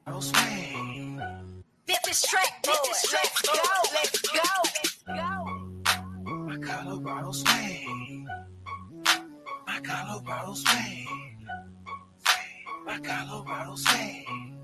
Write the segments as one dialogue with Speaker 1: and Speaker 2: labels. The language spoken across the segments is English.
Speaker 1: Let's go. My Colorado swing. My Colorado swing. My Colorado swing.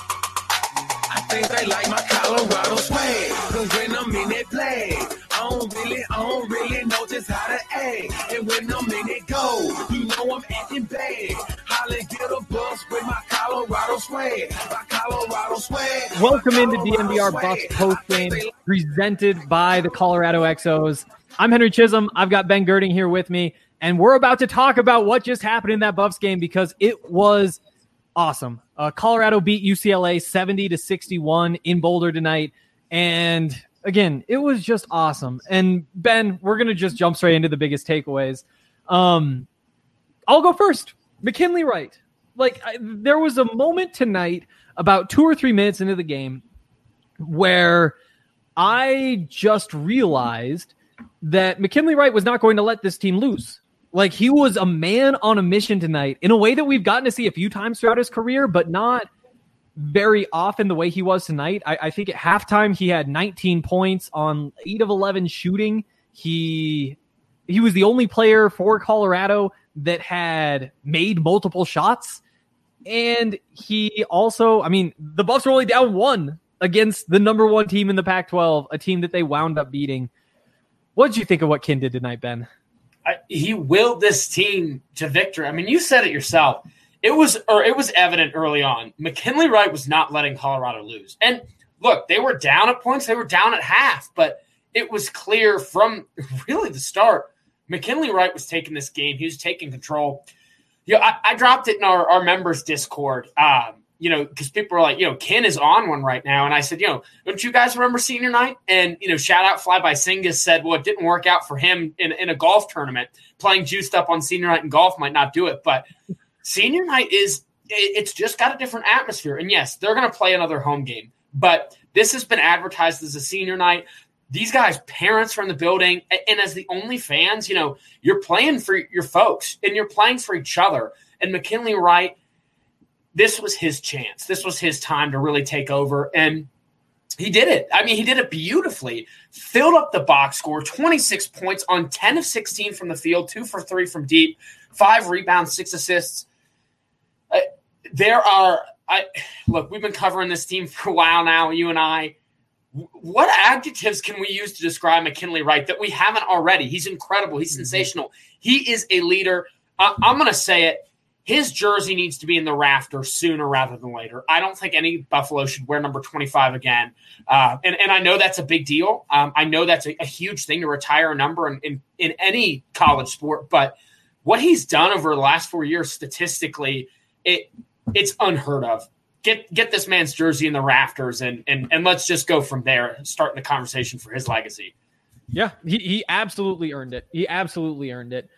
Speaker 1: I think they like my Colorado swing. Cause when I'm in it play, I don't really know just how to act. And when I'm in it go, you know I'm acting bad. Holla, get a bus with my Colorado swag. My Colorado swag.
Speaker 2: Welcome into DNVR Buffs postgame, presented by the Colorado XOs. I'm Henry Chisholm. I've got Ben Girding here with me, and we're about to talk about what just happened in that Buffs game because it was awesome. Colorado beat UCLA 70-61 in Boulder tonight, and again, it was just awesome. And Ben, we're going to just jump straight into the biggest takeaways. I'll go first. McKinley Wright. There was a moment tonight about 2 or 3 minutes into the game where I just realized that McKinley Wright was not going to let this team lose. Like, he was a man on a mission tonight in a way that we've gotten to see a few times throughout his career, but not very often the way he was tonight. I think at halftime he had 19 points on 8 of 11 shooting. He was the only player for Colorado that had made multiple shots. And he also, the Buffs were only down 1 against the number 1 team in the Pac-12, a team that they wound up beating. What did you think of what Ken did tonight, Ben?
Speaker 3: He willed this team to victory. You said it yourself. It was evident early on. McKinley Wright was not letting Colorado lose. And look, they were down at points. They were down at half, but it was clear from really the start. McKinley Wright was taking this game. He was taking control. I dropped it in our members Discord, because people are like, Ken is on one right now. And I said, don't you guys remember senior night? And, shout out Fly by Singus said, well, it didn't work out for him in a golf tournament. Playing juiced up on senior night in golf might not do it. But senior night it's just got a different atmosphere. And yes, they're going to play another home game. But this has been advertised as a senior night. These guys' parents are in the building. And as the only fans, you're playing for your folks and you're playing for each other. And McKinley Wright, this was his chance. This was his time to really take over. And he did it. He did it beautifully. Filled up the box score, 26 points on 10 of 16 from the field, 2 for 3 from deep, 5 rebounds, 6 assists. Look, we've been covering this team for a while now, you and I. What adjectives can we use to describe McKinley Wright that we haven't already? He's incredible. He's sensational. He is a leader. I'm going to say it. His jersey needs to be in the rafters sooner rather than later. I don't think any Buffalo should wear number 25 again. And I know that's a big deal. I know that's a huge thing to retire a number in any college sport. But what he's done over the last 4 years statistically, it's unheard of. Get this man's jersey in the rafters and let's just go from there, starting the conversation for his legacy.
Speaker 2: Yeah, he absolutely earned it. He absolutely earned it.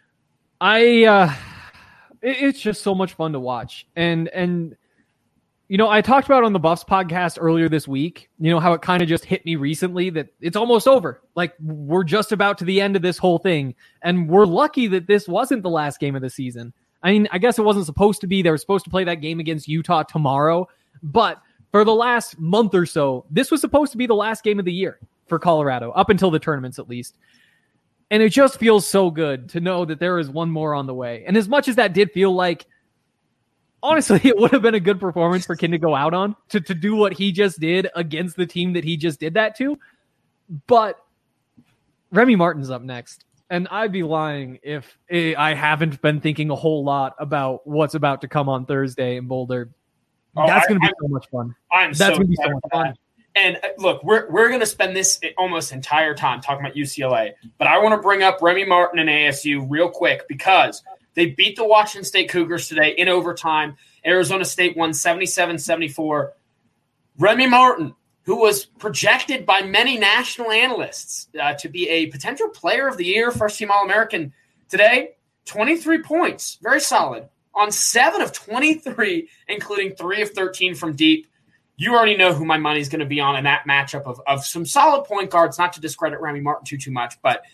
Speaker 2: It's just so much fun to watch. And I talked about on the Buffs podcast earlier this week, how it kind of just hit me recently that it's almost over. Like, we're just about to the end of this whole thing. And we're lucky that this wasn't the last game of the season. I guess it wasn't supposed to be. They were supposed to play that game against Utah tomorrow. But for the last month or so, this was supposed to be the last game of the year for Colorado, up until the tournaments at least. And it just feels so good to know that there is one more on the way. And as much as that did feel like, honestly, it would have been a good performance for Ken to go out on, to do what he just did against the team that he just did that to. But Remy Martin's up next. And I'd be lying if I haven't been thinking a whole lot about what's about to come on Thursday in Boulder. That's going to be so much fun. That's going to be so much fun.
Speaker 3: And look, we're going to spend this almost entire time talking about UCLA, but I want to bring up Remy Martin and ASU real quick because they beat the Washington State Cougars today in overtime. Arizona State won 77-74. Remy Martin, who was projected by many national analysts to be a potential player of the year, first-team All-American today, 23 points, very solid, on 7 of 23, including 3 of 13 from deep. You already know who my money's going to be on in that matchup of some solid point guards, not to discredit Remy Martin too much, but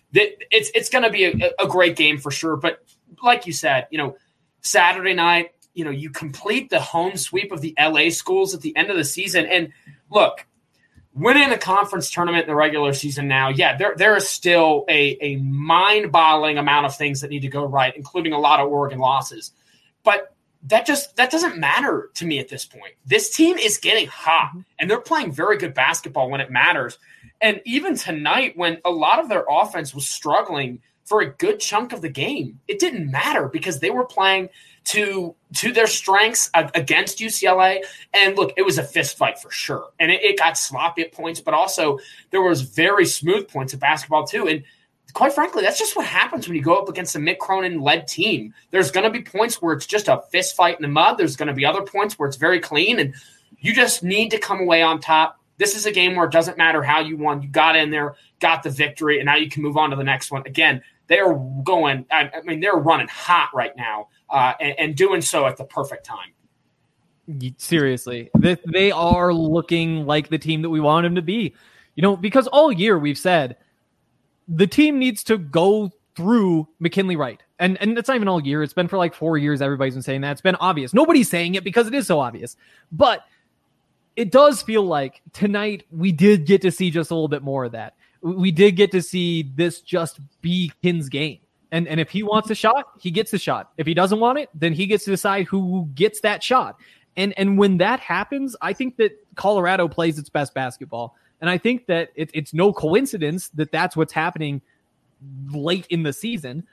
Speaker 3: it's going to be a great game for sure. But like you said, Saturday night, you complete the home sweep of the LA schools at the end of the season. And look, winning a conference tournament in the regular season now, there is still a mind-boggling amount of things that need to go right, including a lot of Oregon losses. But that doesn't matter to me at this point. This team is getting hot, and they're playing very good basketball when it matters. And even tonight, when a lot of their offense was struggling for a good chunk of the game, it didn't matter because they were playing to their strengths against UCLA. And look, it was a fist fight for sure. And it got sloppy at points, but also there was very smooth points of basketball too. And quite frankly, that's just what happens when you go up against a Mick Cronin-led team. There's going to be points where it's just a fist fight in the mud. There's going to be other points where it's very clean, and you just need to come away on top. This is a game where it doesn't matter how you won. You got in there, got the victory, and now you can move on to the next one. Again, they're going – they're running hot right now and doing so at the perfect time.
Speaker 2: Seriously. They are looking like the team that we want them to be. Because all year we've said the team needs to go through McKinley Wright. And it's not even all year. It's been for like 4 years everybody's been saying that. It's been obvious. Nobody's saying it because it is so obvious. But it does feel like tonight we did get to see just a little bit more of that. We did get to see this just be Kin's game. And if he wants a shot, he gets the shot. If he doesn't want it, then he gets to decide who gets that shot. And when that happens, I think that Colorado plays its best basketball. And I think that it's no coincidence that that's what's happening late in the season.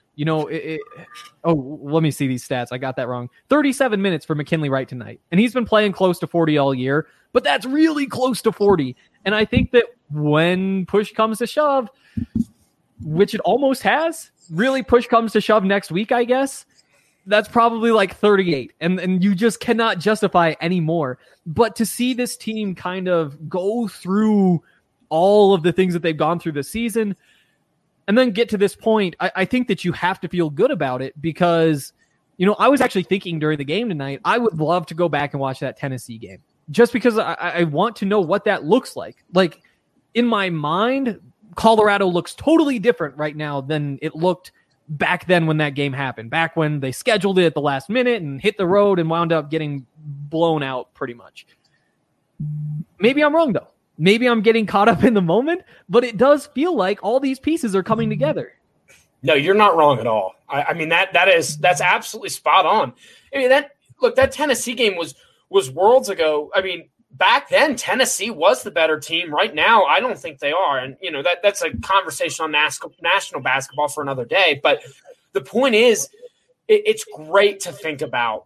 Speaker 2: Let me see these stats. I got that wrong. 37 minutes for McKinley Wright tonight. And he's been playing close to 40 all year, but that's really close to 40. And I think that when push comes to shove, which it almost has, really push comes to shove next week, I guess, that's probably like 38. And you just cannot justify any more. But to see this team kind of go through all of the things that they've gone through this season and then get to this point, I think that you have to feel good about it because, I was actually thinking during the game tonight, I would love to go back and watch that Tennessee game just because I want to know what that looks like. Like in my mind, Colorado looks totally different right now than it looked back then when that game happened, back when they scheduled it at the last minute and hit the road and wound up getting blown out pretty much. Maybe I'm wrong though. Maybe I'm getting caught up in the moment, but it does feel like all these pieces are coming together.
Speaker 4: No, you're not wrong at all. That's absolutely spot on. That Tennessee game was worlds ago. Back then Tennessee was the better team. Right now, I don't think they are. And that's a conversation on national basketball for another day. But the point is, it's great to think about,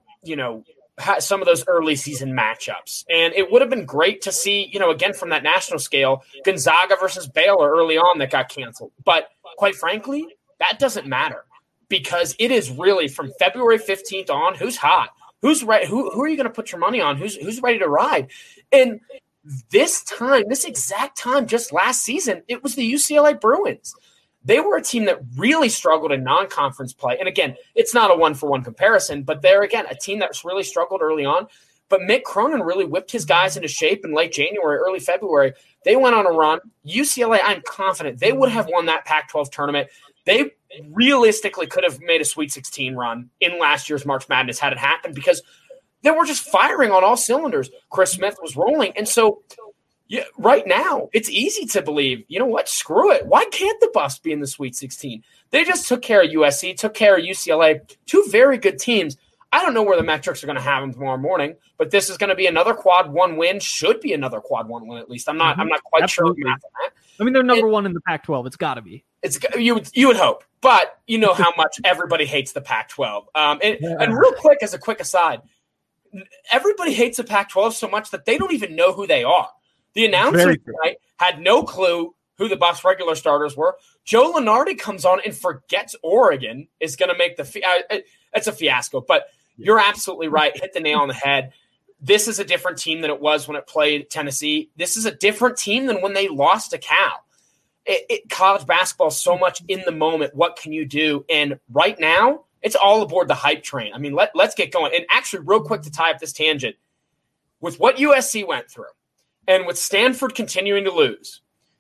Speaker 4: some of those early season matchups. And it would have been great to see, again, from that national scale, Gonzaga versus Baylor early on that got canceled. But quite frankly, that doesn't matter because it is really from February 15th on, who's hot, who's ready, who are you going to put your money on, who's ready to ride. And this exact time, just last season, it was the UCLA Bruins. They were a team that really struggled in non-conference play. And again, it's not a one-for-one comparison, but they're, again, a team that's really struggled early on. But Mick Cronin really whipped his guys into shape in late January, early February. They went on a run. UCLA, I'm confident they would have won that Pac-12 tournament. They realistically could have made a Sweet 16 run in last year's March Madness had it happened because they were just firing on all cylinders. Chris Smith was rolling. And so right now, it's easy to believe, you know what, screw it. Why can't the Buffs be in the Sweet 16? They just took care of USC, took care of UCLA, two very good teams. I don't know where the metrics are going to have them tomorrow morning, but this is going to be another quad one win. Should be another quad one win at least. I'm not quite
Speaker 2: Absolutely.
Speaker 4: sure of the math on that.
Speaker 2: They're number one in the Pac-12. It's got to be.
Speaker 4: You would hope, but you know how much everybody hates the Pac-12. And real quick, as a quick aside, everybody hates the Pac-12 so much that they don't even know who they are. The announcer tonight had no clue who the Buffs regular starters were. Joe Lunardi comes on and forgets Oregon is going to make it's a fiasco. But you're absolutely right. Hit the nail on the head. This is a different team than it was when it played Tennessee. This is a different team than when they lost to Cal. College basketball is so much in the moment. What can you do? And right now, it's all aboard the hype train. I mean, let's get going. And actually, real quick to tie up this tangent, with what USC went through and with Stanford continuing to lose,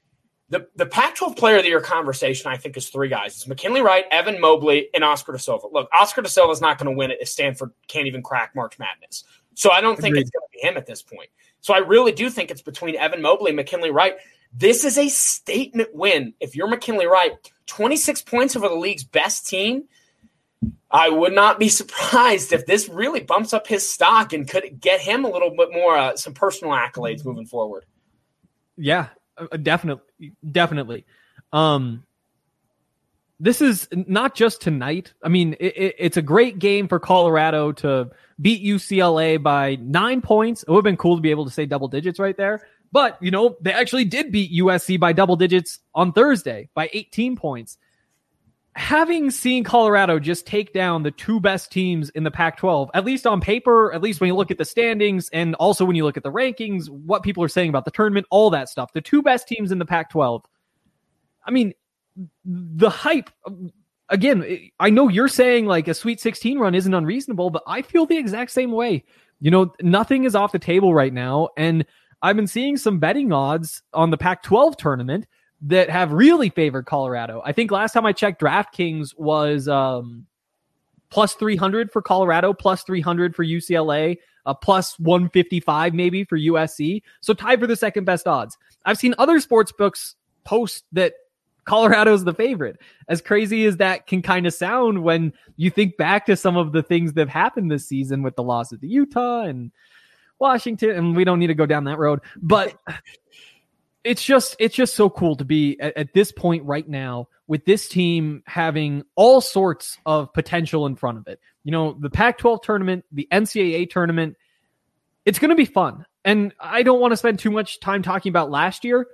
Speaker 4: The Pac-12 Player of the Year conversation, I think, is three guys. It's McKinley Wright, Evan Mobley, and Oscar Da Silva. Look, Oscar Da Silva is not going to win it if Stanford can't even crack March Madness. So I don't think it's going to be him at this point. So I really do think it's between Evan Mobley and McKinley Wright. This is a statement win. If you're McKinley Wright, 26 points over the league's best team, I would not be surprised if this really bumps up his stock and could get him a little bit more some personal accolades moving forward.
Speaker 2: Yeah, definitely. This is not just tonight. I mean, it's a great game for Colorado to beat UCLA by 9 points. It would have been cool to be able to say double digits right there. But, they actually did beat USC by double digits on Thursday by 18 points. Having seen Colorado just take down the two best teams in the Pac-12, at least on paper, at least when you look at the standings, and also when you look at the rankings, what people are saying about the tournament, all that stuff, the two best teams in the Pac-12. I mean, the hype, again, I know you're saying like a Sweet 16 run isn't unreasonable, but I feel the exact same way. Nothing is off the table right now, and I've been seeing some betting odds on the Pac-12 tournament that have really favored Colorado. I think last time I checked, DraftKings was plus 300 for Colorado, plus 300 for UCLA, plus 155 maybe for USC. So tied for the second best odds. I've seen other sports books post that Colorado's the favorite. As crazy as that can kind of sound when you think back to some of the things that have happened this season with the loss of the Utah and Washington, and we don't need to go down that road, but it's just so cool to be at this point right now with this team having all sorts of potential in front of it. The Pac-12 tournament, the NCAA tournament, it's going to be fun. And I don't want to spend too much time talking about last year,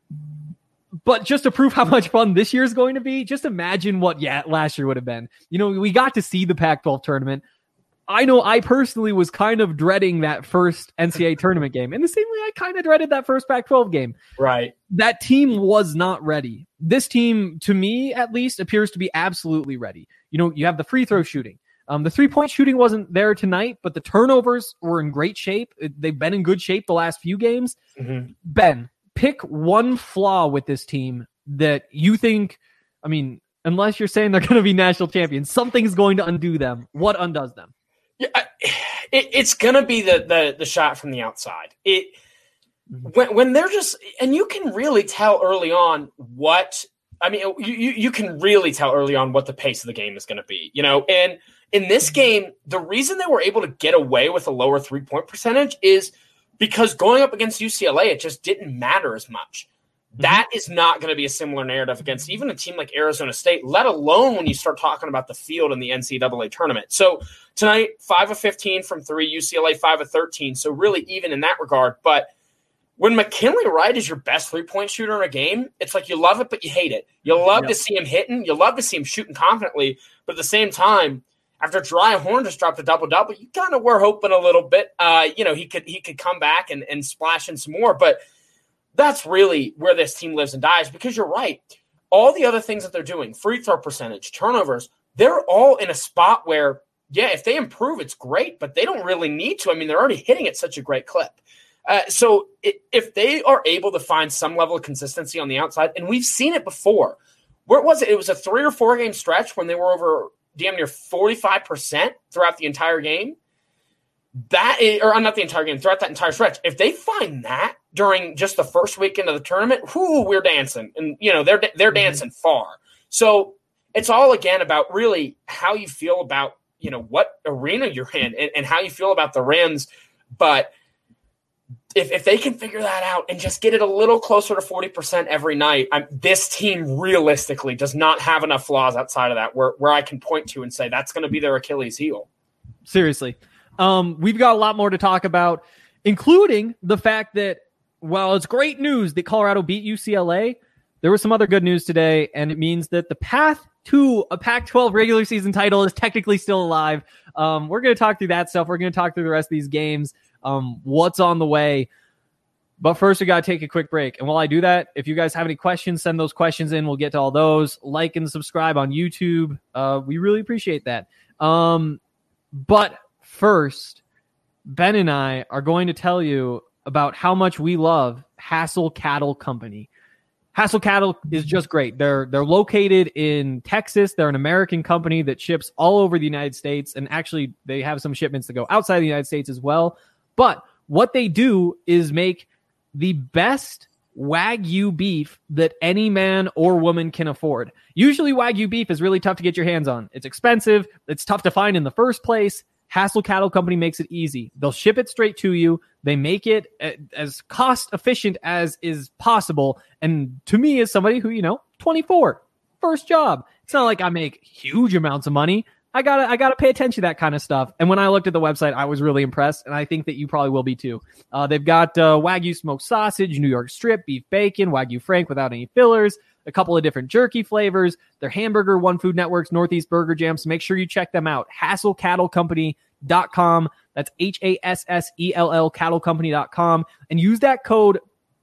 Speaker 2: but just to prove how much fun this year is going to be, just imagine what last year would have been. We got to see the Pac-12 tournament. I know I personally was kind of dreading that first NCAA tournament game. In the same way I kind of dreaded that first Pac-12 game.
Speaker 4: Right.
Speaker 2: That team was not ready. This team, to me at least, appears to be absolutely ready. You have the free throw shooting. The three-point shooting wasn't there tonight, but the turnovers were in great shape. They've been in good shape the last few games. Mm-hmm. Ben, pick one flaw with this team that you think, unless you're saying they're going to be national champions, something's going to undo them. What undoes them?
Speaker 4: Yeah, it's gonna be the shot from the outside. When they're just, and you can really tell early on you can really tell early on what the pace of the game is going to be. And in this game, the reason they were able to get away with a lower 3-point percentage is because going up against UCLA, it just didn't matter as much. That is not going to be a similar narrative against even a team like Arizona State, let alone when you start talking about the field in the NCAA tournament. So tonight, 5 of 15 from 3, UCLA 5 of 13. So really even in that regard. But when McKinley Wright is your best 3-point shooter in a game, it's like you love it, but you hate it. You love to see him hitting. You love to see him shooting confidently. But at the same time, after Jeriah Horne just dropped a double-double, you kind of were hoping a little bit, he could come back and splash in some more. But that's really where this team lives and dies, because you're right. All the other things that they're doing, free throw percentage, turnovers, they're all in a spot where, if they improve, it's great, but they don't really need to. They're already hitting at such a great clip. So if they are able to find some level of consistency on the outside, and we've seen it before. Where was it? It was a 3 or 4 game stretch when they were over damn near 45% throughout the entire game. Not the entire game, throughout that entire stretch. If they find that during just the first weekend of the tournament, we're dancing. And, they're dancing far. So it's all, again, about really how you feel about, what arena you're in and how you feel about the rims. But if they can figure that out and just get it a little closer to 40% every night, this team realistically does not have enough flaws outside of that where I can point to and say that's going to be their Achilles heel.
Speaker 2: Seriously. We've got a lot more to talk about, including the fact that, while it's great news that Colorado beat UCLA, there was some other good news today, and it means that the path to a Pac-12 regular season title is technically still alive. We're going to talk through that stuff. We're going to talk through the rest of these games, what's on the way. But first, we got to take a quick break. And while I do that, if you guys have any questions, send those questions in. We'll get to all those. Like and subscribe on YouTube. We really appreciate that. But first, Ben and I are going to tell you about how much we love Hassel Cattle Company. Hassel Cattle is just great. They're located in Texas. They're an American company that ships all over the United States, and actually they have some shipments that go outside the United States as well. But what they do is make the best Wagyu beef that any man or woman can afford. Usually Wagyu beef is really tough to get your hands on. It's expensive. It's tough to find in the first place. Hassel Cattle Company makes it easy. They'll ship it straight to you. They make it as cost efficient as is possible. And to me, as somebody who, 24, first job, it's not like I make huge amounts of money. I gotta pay attention to that kind of stuff. And when I looked at the website, I was really impressed, and I think that you probably will be too. They've got Wagyu smoked sausage, New York strip, beef bacon, Wagyu Frank without any fillers, a couple of different jerky flavors, their hamburger, One Food Network's Northeast Burger Jam. So make sure you check them out. HassellCattleCompany.com. That's HASSELL cattlecompany.com, and use that code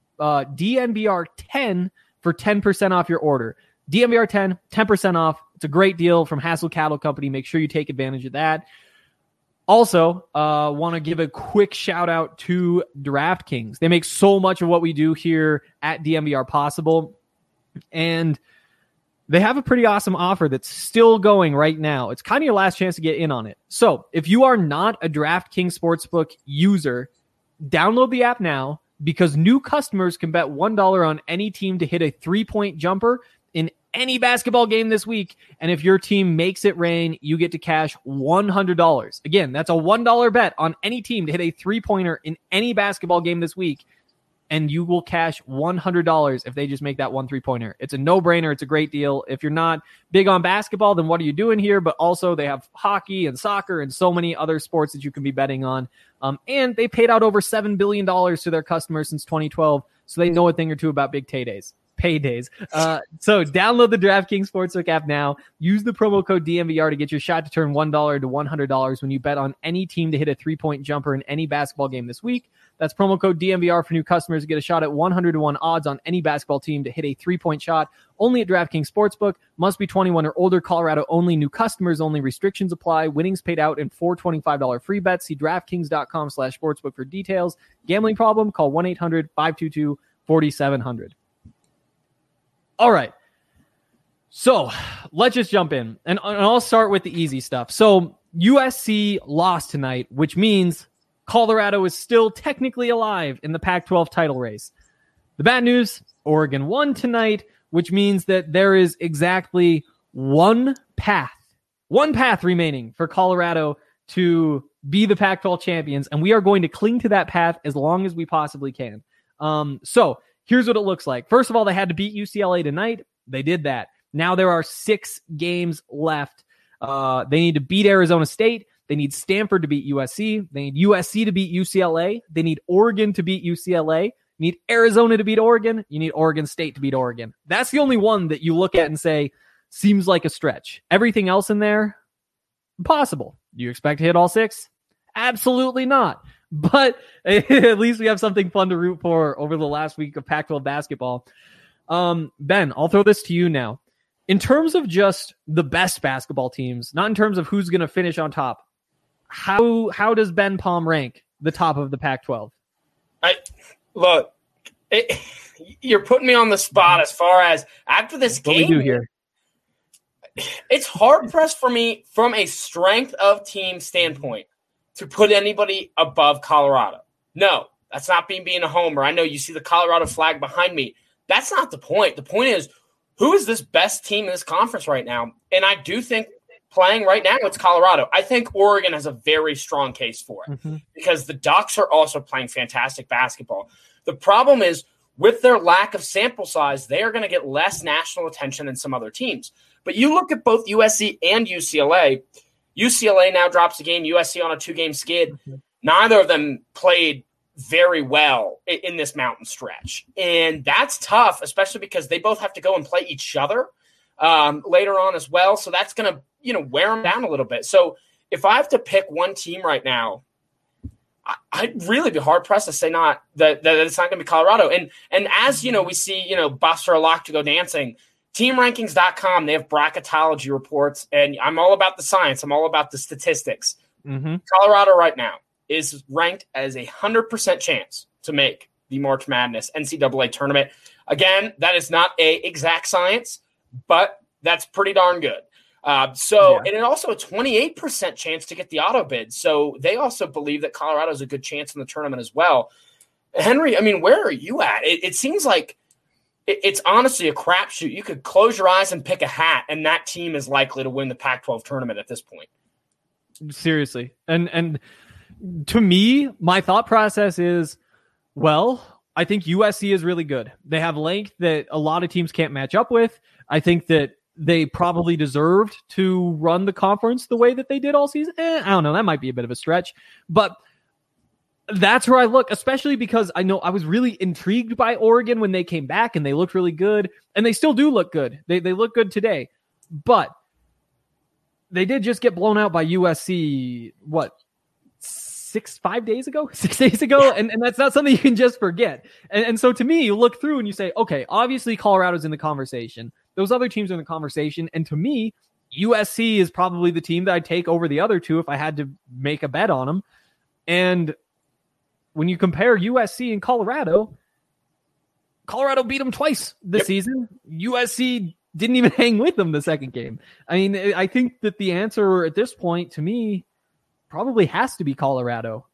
Speaker 2: DNVR10 for 10% off your order. DNVR10, 10% off. It's a great deal from Hassel Cattle Company. Make sure you take advantage of that. Also, want to give a quick shout out to DraftKings. They make so much of what we do here at DNVR possible, and they have a pretty awesome offer that's still going right now. It's kind of your last chance to get in on it. So if you are not a DraftKings Sportsbook user, download the app now, because new customers can bet $1 on any team to hit a 3-point jumper in any basketball game this week. And if your team makes it rain, you get to cash $100. Again, that's a $1 bet on any team to hit a 3-pointer in any basketball game this week, and you will cash $100 if they just make that 1 3-pointer. It's a no-brainer. It's a great deal. If you're not big on basketball, then what are you doing here? But also they have hockey and soccer and so many other sports that you can be betting on. And they paid out over $7 billion to their customers since 2012, so they know a thing or two about big paydays. So download the DraftKings Sportsbook app now. Use the promo code DNVR to get your shot to turn $1 to $100 when you bet on any team to hit a 3-point jumper in any basketball game this week. That's promo code DNVR for new customers to get a shot at 100-1 odds on any basketball team to hit a 3-point shot. Only at DraftKings Sportsbook. Must be 21 or older. Colorado only. New customers only. Restrictions apply. Winnings paid out in 4 $25 free bets. See DraftKings.com/sportsbook for details. Gambling problem? Call 1-800-522-4700. All right. So let's just jump in. And I'll start with the easy stuff. So USC lost tonight, which means Colorado is still technically alive in the Pac-12 title race. The bad news, Oregon won tonight, which means that there is exactly one path remaining for Colorado to be the Pac-12 champions, and we are going to cling to that path as long as we possibly can. So here's what it looks like. First of all, they had to beat UCLA tonight. They did that. Now there are 6 games left. They need to beat Arizona State. They need Stanford to beat USC. They need USC to beat UCLA. They need Oregon to beat UCLA. You need Arizona to beat Oregon. You need Oregon State to beat Oregon. That's the only one that you look at and say, seems like a stretch. Everything else in there, impossible. Do you expect to hit all 6? Absolutely not. But at least we have something fun to root for over the last week of Pac-12 basketball. Ben, I'll throw this to you now. In terms of just the best basketball teams, not in terms of who's going to finish on top, how does Ben Palm rank the top of the Pac-12?
Speaker 4: You're putting me on the spot as far as after this game.
Speaker 2: What we do here.
Speaker 4: It's hard pressed for me from a strength of team standpoint to put anybody above Colorado. No, that's not being a homer. I know you see the Colorado flag behind me. That's not the point. The point is, who is this best team in this conference right now? And I do think playing right now, it's Colorado. I think Oregon has a very strong case for it because the Ducks are also playing fantastic basketball. The problem is, with their lack of sample size, they are going to get less national attention than some other teams. But you look at both USC and UCLA. UCLA now drops a game, USC on a 2-game skid. Neither of them played very well in this mountain stretch. And that's tough, especially because they both have to go and play each other later on as well. So that's going to, wear them down a little bit. So if I have to pick one team right now, I'd really be hard pressed to say that it's not going to be Colorado. And as we see, Buster Lock to go dancing. TeamRankings.com, they have bracketology reports, and I'm all about the science. I'm all about the statistics. Colorado right now is ranked as 100% chance to make the March Madness NCAA tournament. Again, that is not a exact science, but that's pretty darn good. And it also a 28% chance to get the auto bid. So they also believe that Colorado has a good chance in the tournament as well. Henry, I mean, where are you at? It seems like it's honestly a crapshoot. You could close your eyes and pick a hat, and that team is likely to win the Pac-12 tournament at this point.
Speaker 2: Seriously. And to me, my thought process is, well, I think USC is really good. They have length that a lot of teams can't match up with. I think that they probably deserved to run the conference the way that they did all season. I don't know. That might be a bit of a stretch, but that's where I look, especially because I know I was really intrigued by Oregon when they came back and they looked really good, and they still do look good. They look good today, but they did just get blown out by USC, 6 days ago?
Speaker 4: Yeah.
Speaker 2: And that's not something you can just forget. And so to me, you look through and you say, okay, obviously Colorado's in the conversation. Those other teams are in the conversation. And to me, USC is probably the team that I'd take over the other two if I had to make a bet on them. And when you compare USC and Colorado beat them twice this season. USC didn't even hang with them the second game. I mean, I think that the answer at this point to me probably has to be Colorado.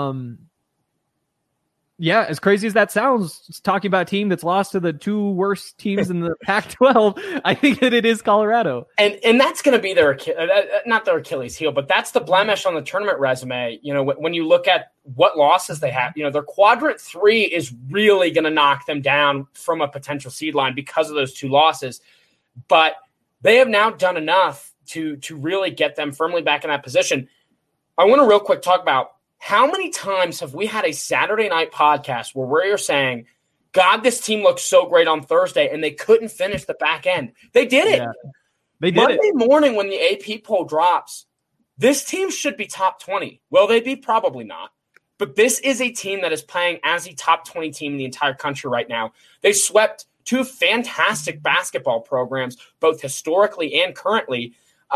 Speaker 2: As crazy as that sounds, talking about a team that's lost to the two worst teams in the Pac-12, I think that it is Colorado.
Speaker 4: And that's going to be not their Achilles heel, but that's the blemish on the tournament resume. You know, when you look at what losses they have, you know, their quadrant 3 is really going to knock them down from a potential seed line because of those two losses. But they have now done enough to really get them firmly back in that position. I want to real quick talk about how many times have we had a Saturday night podcast where we're saying, God, this team looked so great on Thursday, and they couldn't finish the back end. They did it.
Speaker 2: Yeah, they did
Speaker 4: Monday morning when the AP poll drops, this team should be top 20. Will they be? Probably not. But this is a team that is playing as a top 20 team in the entire country right now. They swept two fantastic basketball programs, both historically and currently.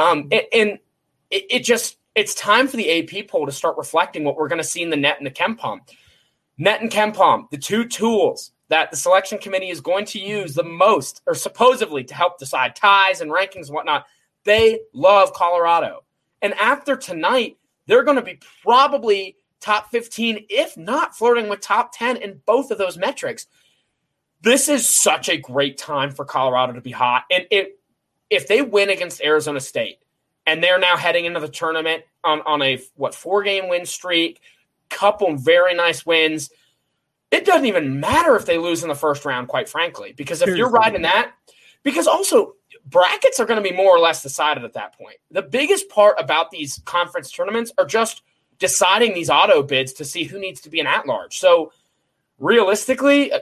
Speaker 4: It's time for the AP poll to start reflecting what we're going to see in the net and the KenPom. Net and KenPom, the two tools that the selection committee is going to use the most, or supposedly to help decide ties and rankings and whatnot. They love Colorado. And after tonight, they're going to be probably top 15, if not flirting with top 10 in both of those metrics. This is such a great time for Colorado to be hot. And if they win against Arizona State, and they're now heading into the tournament on a 4-game win streak, couple very nice wins. It doesn't even matter if they lose in the first round, quite frankly, because if you're riding that, because also brackets are going to be more or less decided at that point. The biggest part about these conference tournaments are just deciding these auto bids to see who needs to be an at-large. So realistically,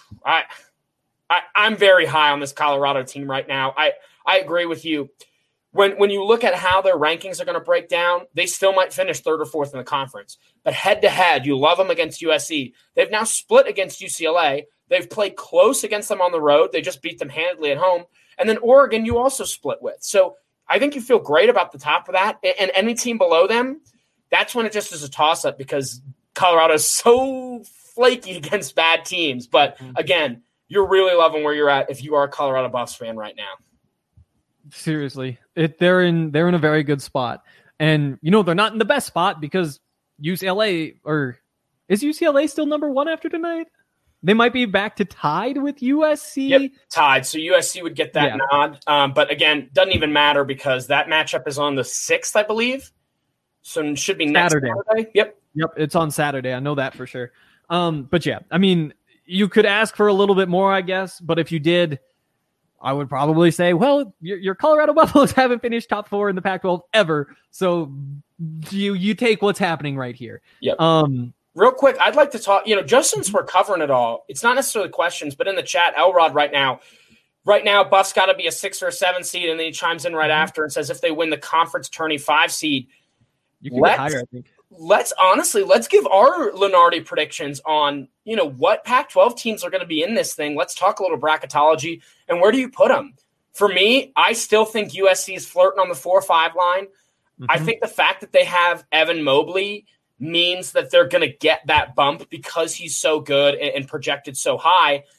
Speaker 4: I'm very high on this Colorado team right now. I agree with you. When you look at how their rankings are going to break down, they still might finish 3rd or 4th in the conference. But head-to-head, you love them against USC. They've now split against UCLA. They've played close against them on the road. They just beat them handily at home. And then Oregon, you also split with. So I think you feel great about the top of that. And any team below them, that's when it just is a toss-up because Colorado is so flaky against bad teams. But, again, you're really loving where you're at if you are a Colorado Buffs fan right now.
Speaker 2: Seriously, they're in a very good spot, and they're not in the best spot because UCLA, or is UCLA still number 1 after tonight? They might be back to tied with USC.
Speaker 4: Yep, tied. So USC would get that nod, but again, doesn't even matter because that matchup is on the 6th, I believe. So it should be next Saturday. Yep,
Speaker 2: it's on Saturday. I know that for sure. But yeah, I mean, you could ask for a little bit more, I guess, but if you did, I would probably say, well, your Colorado Buffaloes haven't finished top 4 in the Pac-12 ever, so you take what's happening right here.
Speaker 4: Yep. Real quick, I'd like to talk, just since we're covering it all, it's not necessarily questions, but in the chat, Elrod right now, Buffs got to be a 6 or a 7 seed, and then he chimes in right after and says if they win the conference tourney 5 seed,
Speaker 2: you can get higher, I think.
Speaker 4: Let's give our Lunardi predictions on, what Pac-12 teams are going to be in this thing. Let's talk a little bracketology. And where do you put them? For me, I still think USC is flirting on the 4-5 line. Mm-hmm. I think the fact that they have Evan Mobley means that they're going to get that bump because he's so good and projected so high.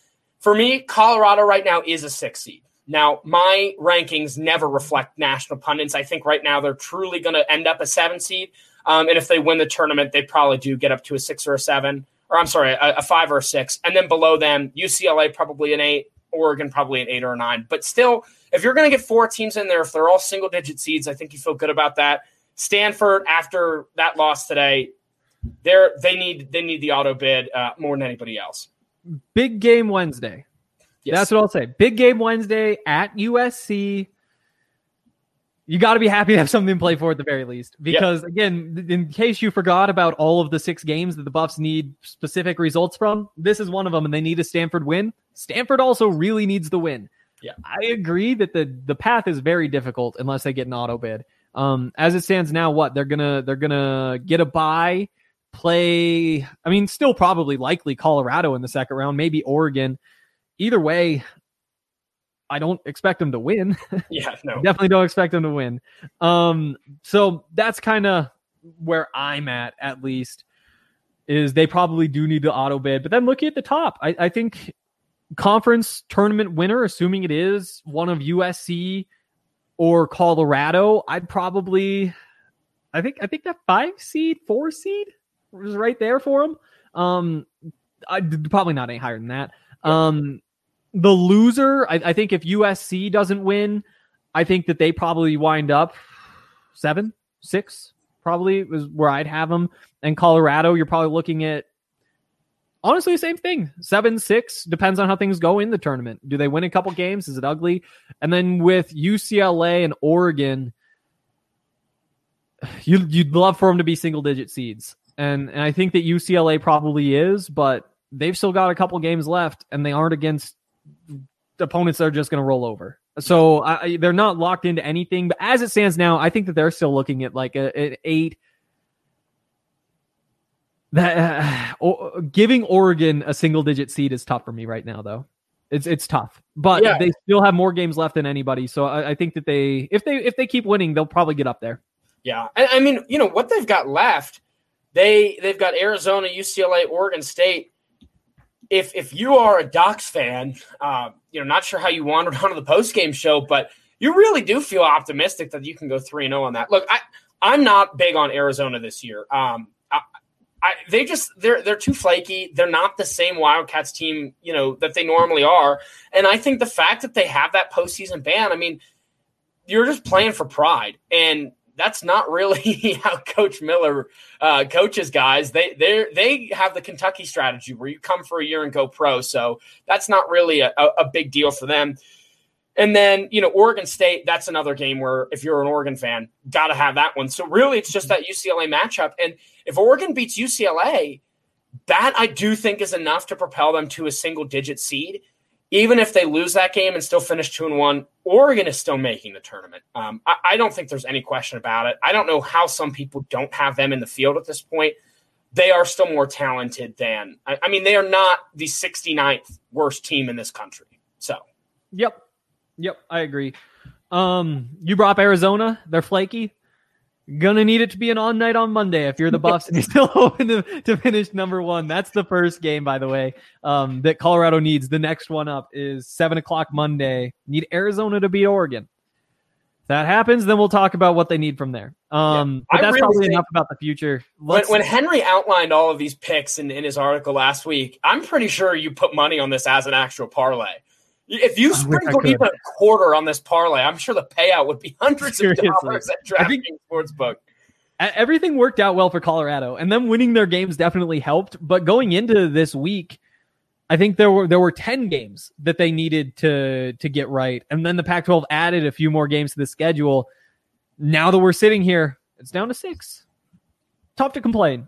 Speaker 4: For me, Colorado right now is a 6 seed. Now, my rankings never reflect national pundits. I think right now they're truly going to end up a 7 seed. And if they win the tournament, they probably do get up to a 6 or a 7. Or I'm sorry, a 5 or a 6. And then below them, UCLA probably an 8, Oregon probably an 8 or a 9. But still, if you're going to get 4 teams in there, if they're all single-digit seeds, I think you feel good about that. Stanford, after that loss today, they need the auto bid more than anybody else.
Speaker 2: Big game Wednesday. Yes. That's what I'll say. Big game Wednesday at USC. You got to be happy to have something to play for at the very least. Because, again, in case you forgot about all of the 6 games that the Buffs need specific results from, this is one of them, and they need a Stanford win. Stanford also really needs the win.
Speaker 4: Yeah,
Speaker 2: I agree that the path is very difficult unless they get an auto bid. As it stands now, they're gonna get a bye, play. I mean, still probably likely Colorado in the second round, maybe Oregon. Either way, I don't expect them to win.
Speaker 4: Yeah, no.
Speaker 2: Definitely don't expect them to win. So that's kind of where I'm at least, is they probably do need to auto bid. But then looking at the top, I think conference tournament winner, assuming it is one of USC or Colorado, I think that 5 seed, 4 seed was right there for them. I'd probably not any higher than that. The loser, I think if USC doesn't win, I think that they probably wind up 7, 6, probably was where I'd have them. And Colorado, you're probably looking at, honestly, the same thing. 7, 6, depends on how things go in the tournament. Do they win a couple games? Is it ugly? And then with UCLA and Oregon, you'd love for them to be single-digit seeds. And I think that UCLA probably is, but they've still got a couple games left, and they aren't against opponents that are just going to roll over. So they're not locked into anything. But as it stands now, I think that they're still looking at like an 8. Giving Oregon a single-digit seed is tough for me right now, though. It's tough, but they still have more games left than anybody. So I think that if they keep winning, they'll probably get up there.
Speaker 4: Yeah, I mean, what they've got left. They've got Arizona, UCLA, Oregon State. If you are a Ducks fan, not sure how you wandered onto the post-game show, but you really do feel optimistic that you can go 3-0 on that. Look, I'm not big on Arizona this year. They're too flaky. They're not the same Wildcats team, that they normally are. And I think the fact that they have that postseason ban, I mean, you're just playing for pride. And that's not really how Coach Miller coaches guys. They have the Kentucky strategy where you come for a year and go pro. So that's not really a big deal for them. And then, Oregon State, that's another game where if you're an Oregon fan, got to have that one. So really it's just that UCLA matchup. And if Oregon beats UCLA, that I do think is enough to propel them to a single-digit seed. Even if they lose that game and still finish 2-1, Oregon is still making the tournament. I don't think there's any question about it. I don't know how some people don't have them in the field at this point. They are still more talented than – I mean, they are not the 69th worst team in this country. So,
Speaker 2: Yep, I agree. You brought up Arizona. They're flaky. Gonna need it to be an on night on Monday if you're the Buffs and you're still hoping to finish number 1. That's the first game, by the way, that Colorado needs. The next one up is 7 o'clock Monday. Need Arizona to beat Oregon. If that happens, then we'll talk about what they need from there. But that's really probably enough about the future.
Speaker 4: When Henry outlined all of these picks in his article last week, I'm pretty sure you put money on this as an actual parlay. If you sprinkle even a quarter on this parlay, I'm sure the payout would be hundreds of dollars at DraftKings Sportsbook.
Speaker 2: Everything worked out well for Colorado, and them winning their games definitely helped. But going into this week, I think there were 10 games that they needed to get right, and then the Pac-12 added a few more games to the schedule. Now that we're sitting here, it's down to 6. Tough to complain.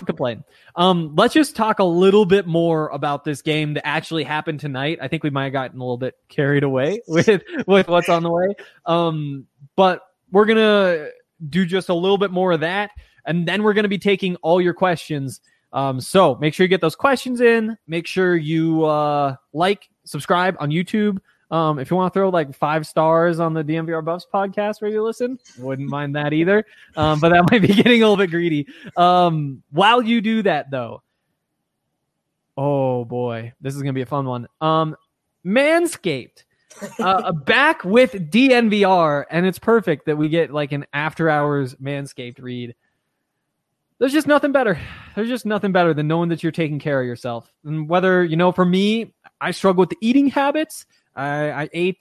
Speaker 2: Let's just talk a little bit more about this game that actually happened tonight. I think we might have gotten a little bit carried away with what's on the way. But we're going to do just a little bit more of that. And then we're going to be taking all your questions. So make sure you get those questions in. Make sure you subscribe on YouTube. If you want to throw like 5 stars on the DMVR Buffs podcast where you listen, wouldn't mind that either. But that might be getting a little bit greedy. While you do that, though, oh boy, this is going to be a fun one. Manscaped. Back with DNVR, and it's perfect that we get like an after hours Manscaped read. There's just nothing better. There's just nothing better than knowing that you're taking care of yourself. And whether, for me, I struggle with the eating habits. I ate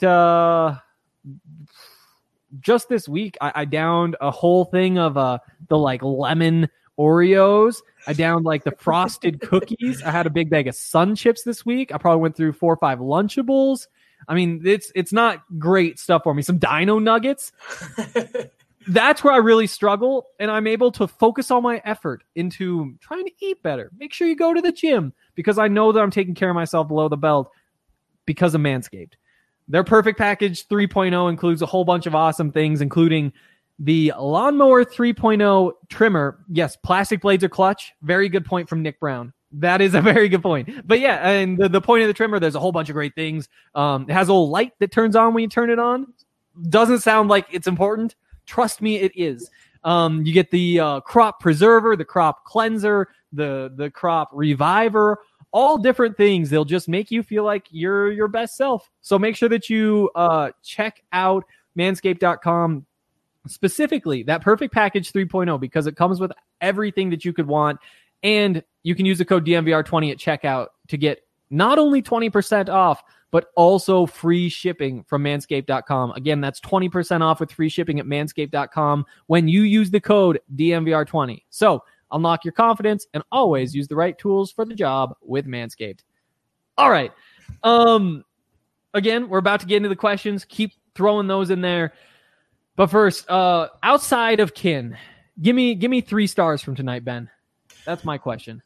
Speaker 2: just this week. I downed a whole thing of the like lemon Oreos. I downed like the frosted cookies. I had a big bag of Sun Chips this week. I probably went through 4 or 5 Lunchables. I mean, it's not great stuff for me. Some Dino Nuggets. That's where I really struggle, and I'm able to focus all my effort into trying to eat better. Make sure you go to the gym, because I know that I'm taking care of myself below the belt because of Manscaped. Their Perfect Package 3.0 includes a whole bunch of awesome things, including the Lawnmower 3.0 trimmer. Yes, plastic blades are clutch. Very good point from Nick Brown. That is a very good point. But yeah, and the point of the trimmer, there's a whole bunch of great things. It has a little light that turns on when you turn it on. Doesn't sound like it's important. Trust me, it is. You get the crop preserver, the crop cleanser, the crop reviver, all different things. They'll just make you feel like you're your best self. So make sure that you check out manscaped.com, specifically that Perfect Package 3.0, because it comes with everything that you could want. And you can use the code DNVR20 at checkout to get not only 20% off, but also free shipping from manscaped.com. Again, that's 20% off with free shipping at manscaped.com when you use the code DNVR20. So unlock your confidence and always use the right tools for the job with Manscaped. All right. Again, we're about to get into the questions. Keep throwing those in there. But first, outside of Kin, give me 3 stars from tonight, Ben. That's my question.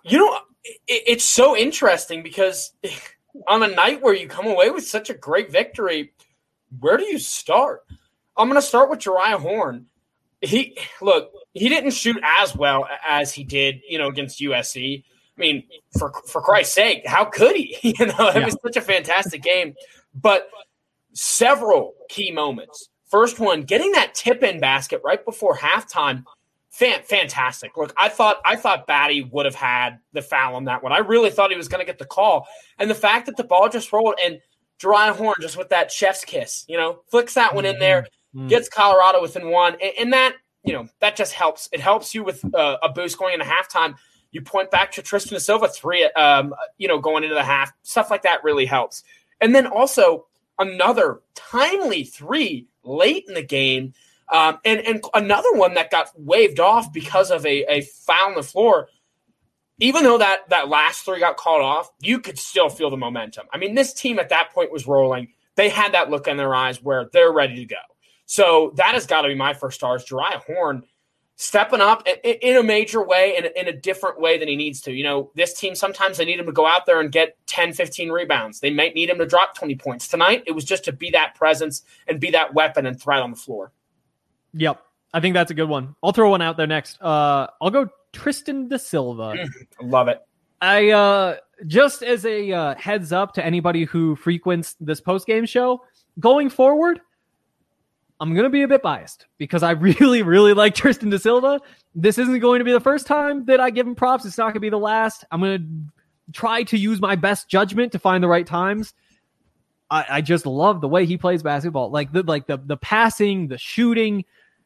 Speaker 4: It's so interesting because on a night where you come away with such a great victory, where do you start? I'm going to start with Jeriah Horne. He didn't shoot as well as he did, against USC. I mean, for Christ's sake, how could he? It was such a fantastic game. But several key moments. First one, getting that tip-in basket right before halftime. Fantastic. Look, I thought Batty would have had the foul on that one. I really thought he was going to get the call. And the fact that the ball just rolled and Jeriah Horne just with that chef's kiss, flicks that one in there, gets Colorado within 1. And that, that just helps. It helps you with a boost going into halftime. You point back to Tristan da Silva 3, going into the half. Stuff like that really helps. And then also another timely 3 late in the game. And another one that got waved off because of a foul on the floor. Even though that last 3 got called off, you could still feel the momentum. I mean, this team at that point was rolling. They had that look in their eyes where they're ready to go. So that has got to be my first stars. Jeriah Horne stepping up in a major way, in a different way than he needs to. This team, sometimes they need him to go out there and get 10, 15 rebounds. They might need him to drop 20 points. Tonight, it was just to be that presence and be that weapon and threat on the floor.
Speaker 2: Yep. I think that's a good one. I'll throw one out there next. I'll go Tristan da Silva.
Speaker 4: Love it.
Speaker 2: I just as a heads up to anybody who frequents this post-game show, going forward, I'm going to be a bit biased because I really, really like Tristan da Silva. This isn't going to be the first time that I give him props. It's not going to be the last. I'm going to try to use my best judgment to find the right times. I just love the way he plays basketball. Like the passing, the shooting,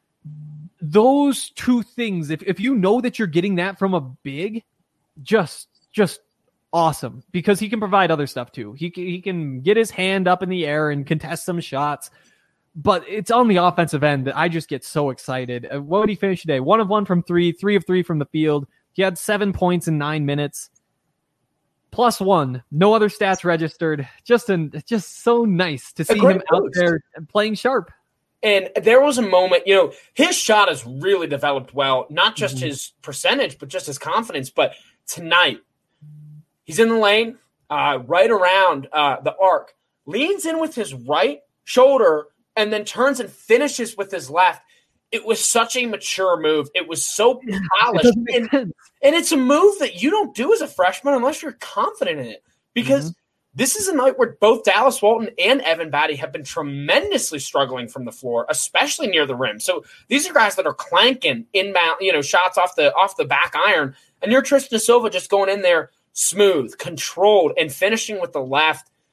Speaker 2: those 2 things. If you know that you're getting that from a big, just awesome, because he can provide other stuff too. He can get his hand up in the air and contest some shots, but it's on the offensive end that I just get so excited. What did he finish today? 1 of 1 from 3, 3 of 3 from the field. He had 7 points in 9 minutes. +1. No other stats registered. Just so nice to see him out there playing sharp.
Speaker 4: And there was a moment, his shot has really developed well, not just his percentage, but just his confidence. But tonight, he's in the lane, right around the arc, leans in with his right shoulder, and then turns and finishes with his left. It was such a mature move. It was so polished. And it's a move that you don't do as a freshman unless you're confident in it. Because this is a night where both Dallas Walton and Evan Batty have been tremendously struggling from the floor, especially near the rim. So these are guys that are clanking inbound, shots off the back iron. And you're Tristan da Silva just going in there smooth, controlled, and finishing with the left.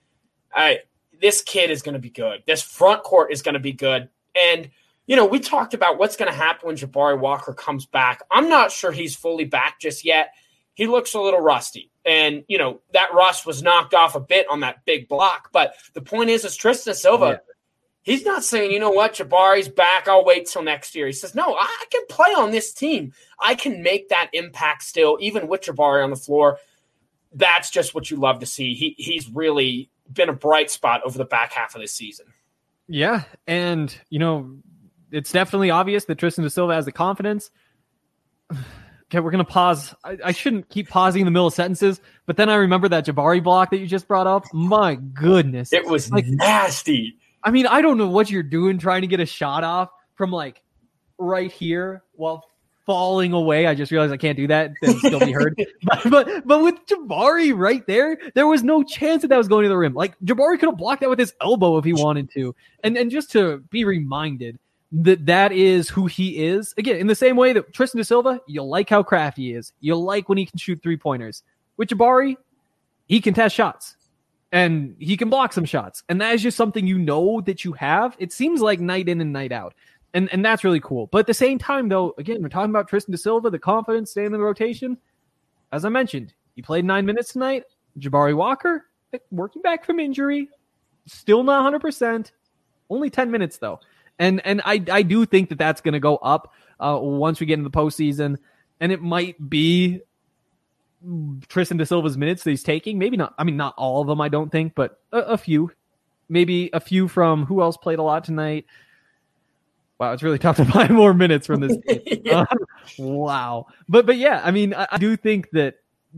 Speaker 4: this kid is going to be good. This front court is going to be good. And, we talked about what's going to happen when Jabari Walker comes back. I'm not sure he's fully back just yet. He looks a little rusty. And, that rust was knocked off a bit on that big block. But the point is Tristan Silva, he's not saying, you know what, Jabari's back, I'll wait till next year. He says, no, I can play on this team. I can make that impact still, even with Jabari on the floor. That's just what you love to see. He's really been a bright spot over the back half of this season.
Speaker 2: Yeah, and, it's definitely obvious that Tristan da Silva has the confidence. Okay, we're going to pause. I shouldn't keep pausing in the middle of sentences, but then I remember that Jabari block that you just brought up. My goodness.
Speaker 4: It was nasty.
Speaker 2: I mean, I don't know what you're doing trying to get a shot off from right here while falling away. I just realized I can't do that and still be heard. but with Jabari right there was no chance that was going to the rim. Jabari could have blocked that with his elbow if he wanted to. And just to be reminded that is who he is. Again, in the same way that Tristan da Silva, you like how crafty he is. You like when he can shoot 3-pointers. With Jabari, he can test shots. And he can block some shots. And that is just something that you have. It seems like night in and night out. And that's really cool. But at the same time, though, again, we're talking about Tristan da Silva, the confidence, staying in the rotation. As I mentioned, he played 9 minutes tonight. Jabari Walker, working back from injury. Still not 100%. Only 10 minutes, though. And I do think that that's going to go up once we get into the postseason. And it might be Tristan da Silva's minutes that he's taking. Maybe not. I mean, not all of them, I don't think, but a few. Maybe a few from who else played a lot tonight. Wow, it's really tough to find more minutes from this game. Wow. But yeah, I mean, I do think that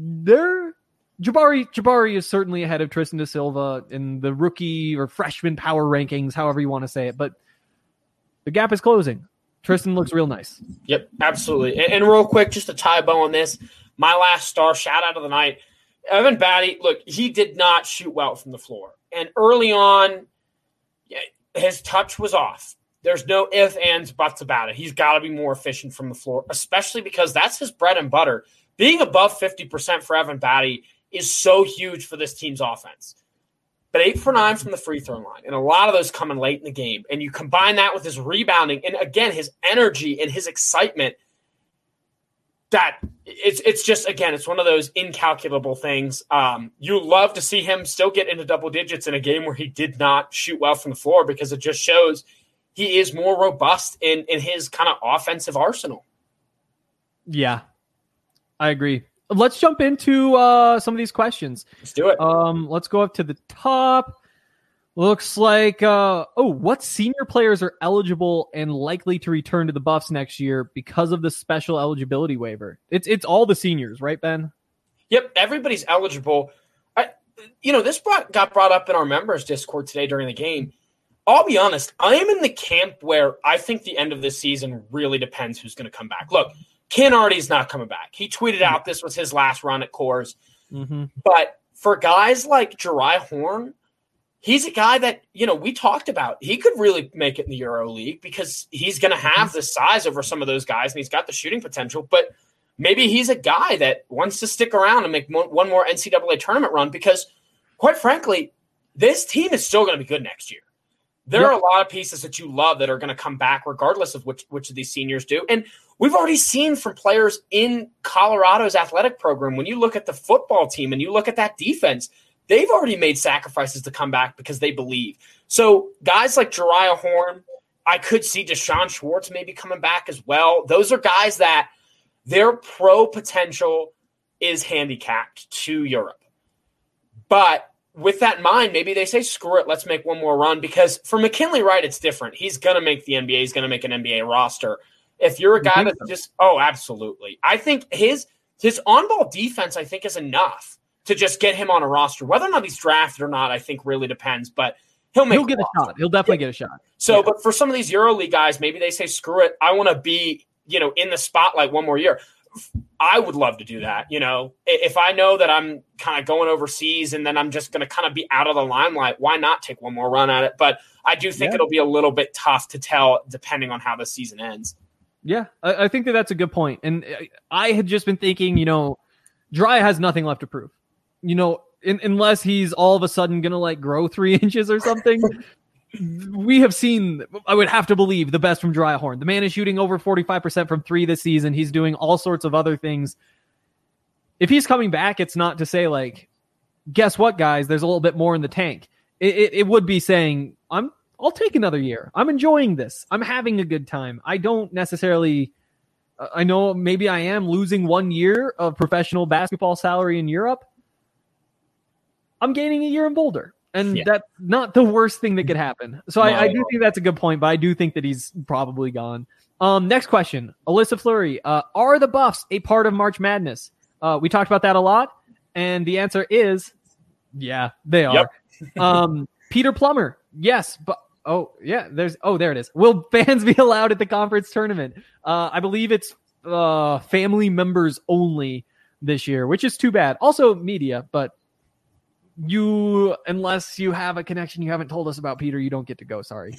Speaker 2: Jabari is certainly ahead of Tristan da Silva in the rookie or freshman power rankings, however you want to say it. But the gap is closing. Tristan looks real nice.
Speaker 4: Yep, absolutely. And real quick, just to tie a bow on this, my last star shout out of the night, Evan Batty. Look, he did not shoot well from the floor. And early on, his touch was off. There's no ifs, ands, buts about it. He's got to be more efficient from the floor, especially because that's his bread and butter. Being above 50% for Evan Batty is so huge for this team's offense. But 8 for 9 from the free throw line, and a lot of those coming late in the game. And you combine that with his rebounding, and again, his energy and his excitement, that it's just, again, it's one of those incalculable things. You love to see him still get into double digits in a game where he did not shoot well from the floor, because it just shows he is more robust in his kind of offensive arsenal.
Speaker 2: Yeah, I agree. Let's jump into some of these questions.
Speaker 4: Let's do it.
Speaker 2: Let's go up to the top. Looks like, what senior players are eligible and likely to return to the Buffs next year because of the special eligibility waiver? It's all the seniors, right, Ben?
Speaker 4: Yep, everybody's eligible. This got brought up in our members Discord today during the game. I'll be honest, I am in the camp where I think the end of this season really depends who's going to come back. Look, Ken Ardy's not coming back. He tweeted out this was his last run at Coors. Mm-hmm. But for guys like Jeriah Horn, he's a guy that, we talked about. He could really make it in the Euro League because he's going to have the size over some of those guys, and he's got the shooting potential. But maybe he's a guy that wants to stick around and make one more NCAA tournament run because, quite frankly, this team is still going to be good next year. There are a lot of pieces that you love that are going to come back regardless of which of these seniors do. And we've already seen from players in Colorado's athletic program, when you look at the football team and you look at that defense, they've already made sacrifices to come back because they believe. So guys like Jeriah Horn, I could see Deshaun Schwartz maybe coming back as well. Those are guys that their pro potential is handicapped to Europe. But with that in mind, maybe they say, screw it, let's make one more run. Because for McKinley Wright, it's different. He's going to make the NBA. He's going to make an NBA roster. If you're a guy that's just – oh, absolutely. I think his on-ball defense, I think, is enough to just get him on a roster. Whether or not he's drafted or not, I think really depends. But he'll get
Speaker 2: a shot. He'll definitely get a shot.
Speaker 4: So, But for some of these EuroLeague guys, maybe they say, screw it, I want to be, in the spotlight one more year. I would love to do that. If I know that I'm kind of going overseas and then I'm just going to kind of be out of the limelight, why not take one more run at it? But I do think it'll be a little bit tough to tell depending on how the season ends.
Speaker 2: Yeah, I think that's a good point. And I had just been thinking, Jeriah has nothing left to prove. unless he's all of a sudden going to like grow 3 inches or something, we have seen, I would have to believe, the best from Jeriah Horn. The man is shooting over 45% from 3 this season. He's doing all sorts of other things. If he's coming back, it's not to say like, guess what, guys, there's a little bit more in the tank. It would be saying, I'll take another year. I'm enjoying this. I'm having a good time. I don't necessarily, I know maybe I am losing 1 year of professional basketball salary in Europe. I'm gaining a year in Boulder. And that's not the worst thing that could happen. So I do think that's a good point, but I do think that he's probably gone. Next question, Alyssa Fleury. Are the Buffs a part of March Madness? We talked about that a lot, and the answer is, yeah, they are. Yep. Peter Plummer, yes, but there it is. Will fans be allowed at the conference tournament? I believe it's family members only this year, which is too bad. Also media, but unless you have a connection you haven't told us about, Peter, you don't get to go. Sorry.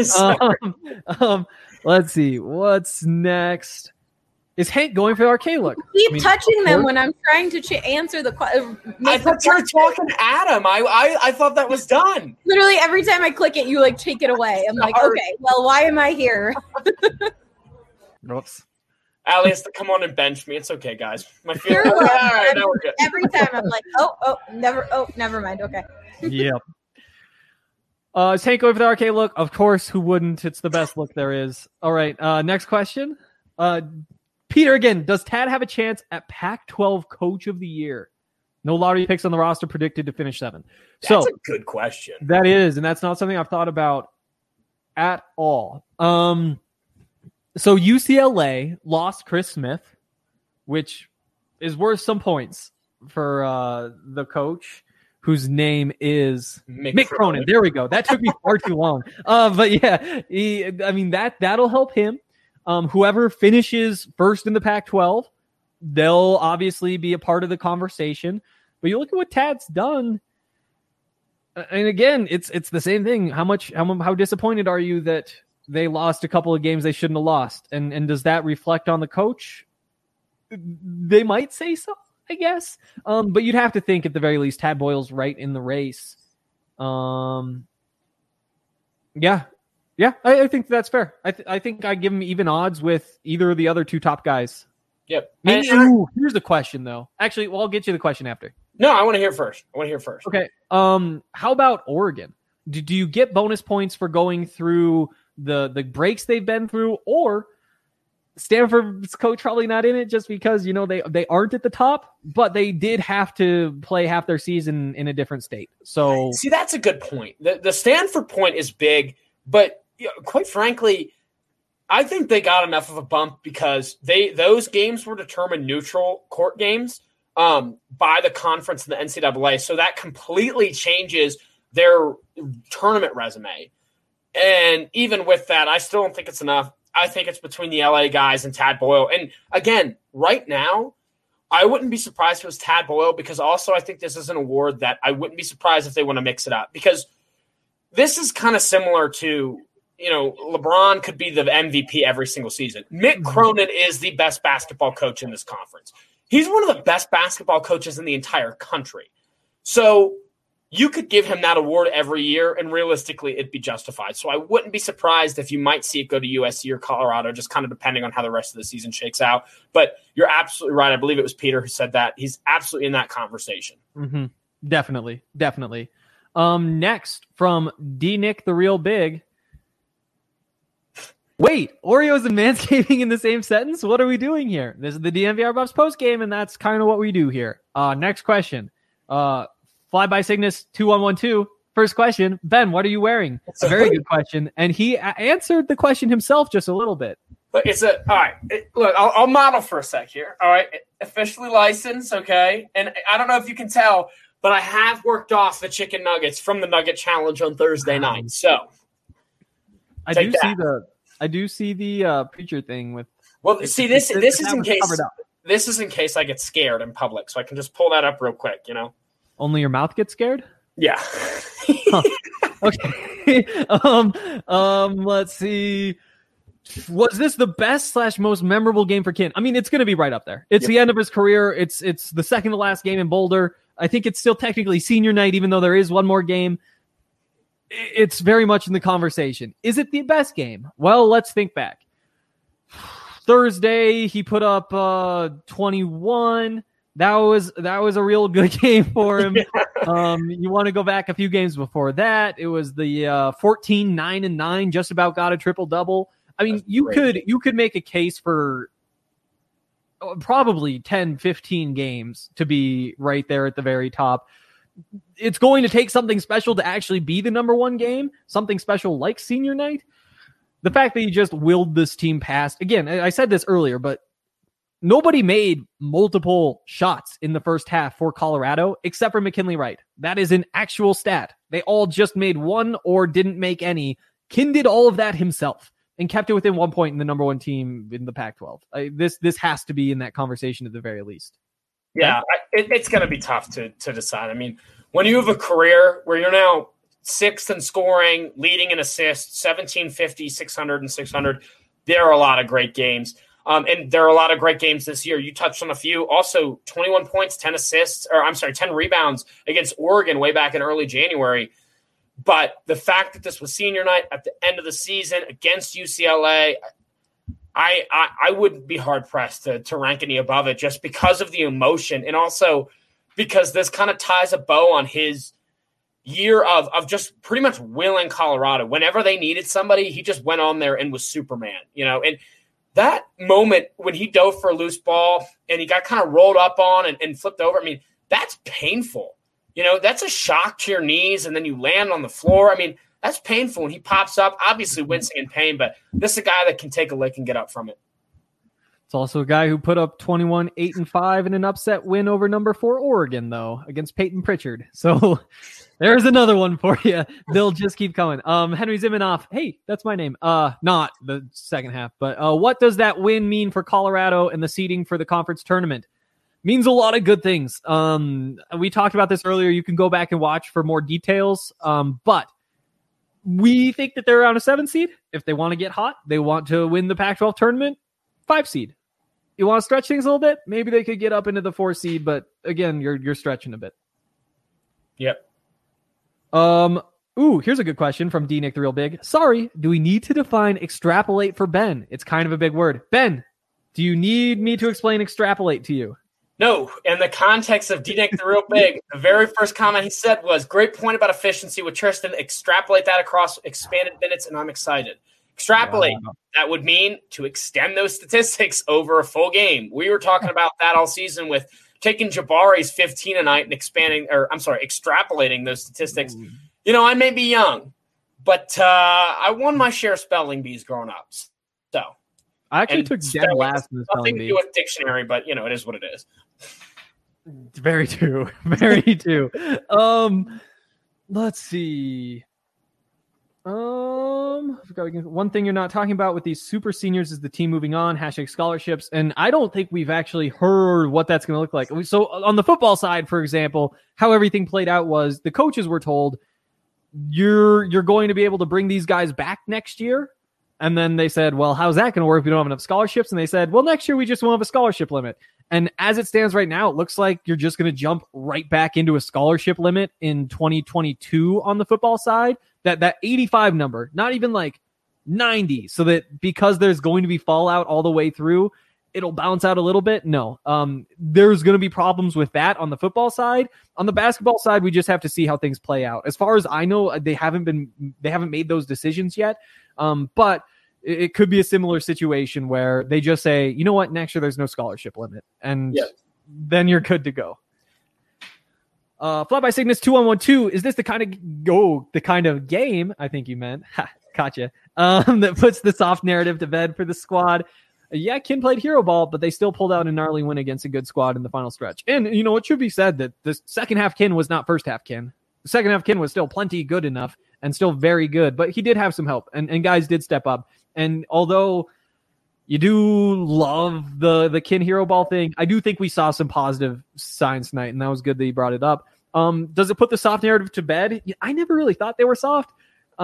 Speaker 2: Let's see. What's next? Is Hank going for the arcade look?
Speaker 5: Keep touching them when I'm trying to answer the question.
Speaker 4: I thought you were talking to Adam. I thought that was done.
Speaker 5: Literally every time I click it, you like take it away. I'm like, okay, well, why am I here?
Speaker 2: Oops.
Speaker 4: Allie has to come on and bench me. It's okay, guys. My feelings. All right, now we're good.
Speaker 5: Every time I'm like, never mind. Okay.
Speaker 2: Yep. Is Hank going for the arcade look? Of course, who wouldn't? It's the best look there is. All right, next question. Peter, again, does Tad have a chance at Pac-12 Coach of the Year? No lottery picks on the roster, predicted to finish 7.
Speaker 4: That's a good question.
Speaker 2: That is, and that's not something I've thought about at all. So UCLA lost Chris Smith, which is worth some points for the coach, whose name is Mick Cronin. There we go. That took me far too long. But yeah, that'll help him. Whoever finishes first in the Pac-12, they'll obviously be a part of the conversation. But you look at what Tad's done, and again, it's the same thing. How disappointed are you that they lost a couple of games they shouldn't have lost? And does that reflect on the coach? They might say so, I guess. But you'd have to think at the very least Tad Boyle's right in the race. Yeah, I think that's fair. I think I give him even odds with either of the other 2 top guys.
Speaker 4: Yep.
Speaker 2: Here's the question, though. Actually, I'll get you the question after.
Speaker 4: No, I want to hear first.
Speaker 2: Okay. How about Oregon? Do you get bonus points for going through the breaks they've been through, or Stanford's coach probably not in it just because they aren't at the top, but they did have to play half their season in a different state. So
Speaker 4: see, that's a good point. The Stanford point is big, but quite frankly, I think they got enough of a bump because those games were determined neutral court games by the conference and the NCAA. So that completely changes their tournament resume. And even with that, I still don't think it's enough. I think it's between the LA guys and Tad Boyle. And again, right now, I wouldn't be surprised if it was Tad Boyle, because also I think this is an award that I wouldn't be surprised if they want to mix it up, because this is kind of similar to, LeBron could be the MVP every single season. Mick Cronin is the best basketball coach in this conference. He's one of the best basketball coaches in the entire country. So you could give him that award every year, and realistically, it'd be justified. So I wouldn't be surprised if you might see it go to USC or Colorado, just kind of depending on how the rest of the season shakes out. But you're absolutely right. I believe it was Peter who said that. He's absolutely in that conversation.
Speaker 2: Mm-hmm. Definitely. Next, from D. Nick the Real Big. Wait, Oreos and manscaping in the same sentence? What are we doing here? This is the DNVR Buffs post game, and that's kind of what we do here. Next question. Fly by Cygnus 2112. First question, Ben, what are you wearing? It's a very good question, and he answered the question himself just a little bit.
Speaker 4: But all right. Look, I'll model for a sec here. All right, officially licensed, okay. And I don't know if you can tell, but I have worked off the chicken nuggets from the Nugget Challenge on Thursday night. So
Speaker 2: I do see the preacher thing with.
Speaker 4: Well, see, this is in case. This is in case I get scared in public, so I can just pull that up real quick.
Speaker 2: Only your mouth gets scared?
Speaker 4: Yeah.
Speaker 2: Huh. Okay. Let's see. Was this the best / most memorable game for Kin? I mean, it's going to be right up there. It's the end of his career. It's the second to last game in Boulder. I think it's still technically senior night, even though there is one more game. It's very much in the conversation. Is it the best game? Well, let's think back. Thursday, he put up 21. That was a real good game for him. You want to go back a few games before that? It was the 14-9-9, just about got a triple-double. I mean, you could make a case for probably 10, 15 games to be right there at the very top. It's going to take something special to actually be the number one game, something special like senior night. The fact that he just willed this team past, again, I said this earlier, but nobody made multiple shots in the first half for Colorado except for McKinley Wright. That is an actual stat. They all just made one or didn't make any. Kin did all of that himself and kept it within 1 point in the number one team in the Pac-12. This has to be in that conversation at the very least.
Speaker 4: Yeah, it's going to be tough to decide. I mean, when you have a career where you're now sixth in scoring, leading in assists, 1750, 600, and 600, there are a lot of great games. And there are a lot of great games this year. You touched on a few. Also, 21 points, 10 rebounds against Oregon way back in early January. But the fact that this was senior night at the end of the season against UCLA, I would be hard-pressed to rank any above it just because of the emotion and also because this kind of ties a bow on his year of just pretty much willing Colorado. Whenever they needed somebody, he just went on there and was Superman, and that moment when he dove for a loose ball and he got kind of rolled up on and flipped over, I mean, that's painful. That's a shock to your knees, and then you land on the floor. I mean, that's painful when he pops up, obviously wincing in pain, but this is a guy that can take a lick and get up from it.
Speaker 2: It's also a guy who put up 21, 8-5 in an upset win over number 4 Oregon, though, against Peyton Pritchard. So there's another one for you. They'll just keep coming. Henry Zimanoff. Hey, that's my name. Not the second half, but what does that win mean for Colorado and the seeding for the conference tournament? Means a lot of good things. We talked about this earlier. You can go back and watch for more details. But we think that they're around a 7 seed. If they want to get hot, they want to win the Pac-12 tournament, 5 seed. You want to stretch things a little bit? Maybe they could get up into the 4 seed, but again, you're stretching a bit.
Speaker 4: Yep.
Speaker 2: Here's a good question from D Nick the Real Big. Sorry, do we need to define extrapolate for Ben? It's kind of a big word. Ben, do you need me to explain extrapolate to you?
Speaker 4: No, in the context of D-Nick the Real Big, the very first comment he said was, great point about efficiency with Tristan. Extrapolate that across expanded minutes, and I'm excited. Extrapolate, wow. That would mean to extend those statistics over a full game. We were talking about that all season with taking Jabari's 15 a night and extrapolating those statistics. Ooh. I may be young, but I won my share of spelling bees growing up. So
Speaker 2: I actually took dead last in the spelling bee.
Speaker 4: Nothing to do with dictionary, but it is what it is.
Speaker 2: Very true. Very true. Let's see. One thing you're not talking about with these super seniors is the team moving on, #scholarships. And I don't think we've actually heard what that's going to look like. So on the football side, for example, how everything played out was the coaches were told, you're going to be able to bring these guys back next year. And then they said, well, how's that going to work if we don't have enough scholarships? And they said, well, next year we just won't have a scholarship limit. And as it stands right now, it looks like you're just going to jump right back into a scholarship limit in 2022 on the football side. That 85 number, not even like 90, so that because there's going to be fallout all the way through, it'll bounce out a little bit. No, there's going to be problems with that on the football side. On the basketball side, we just have to see how things play out. As far as I know, they haven't made those decisions yet. But it could be a similar situation where they just say, you know what, next year there's no scholarship limit, and then you're good to go. Fly by Cygnus 2112. Is this the kind of game? I think you meant. Gotcha. That puts the soft narrative to bed for the squad. Yeah, Kin played hero ball, but they still pulled out a gnarly win against a good squad in the final stretch. And it should be said that the second half Kin was not first half Kin. The second half Kin was still plenty good enough and still very good, but he did have some help, and guys did step up. And although you do love the Kin hero ball thing, I do think we saw some positive signs tonight, and that was good that you brought it up. Does it put the soft narrative to bed? I never really thought they were soft.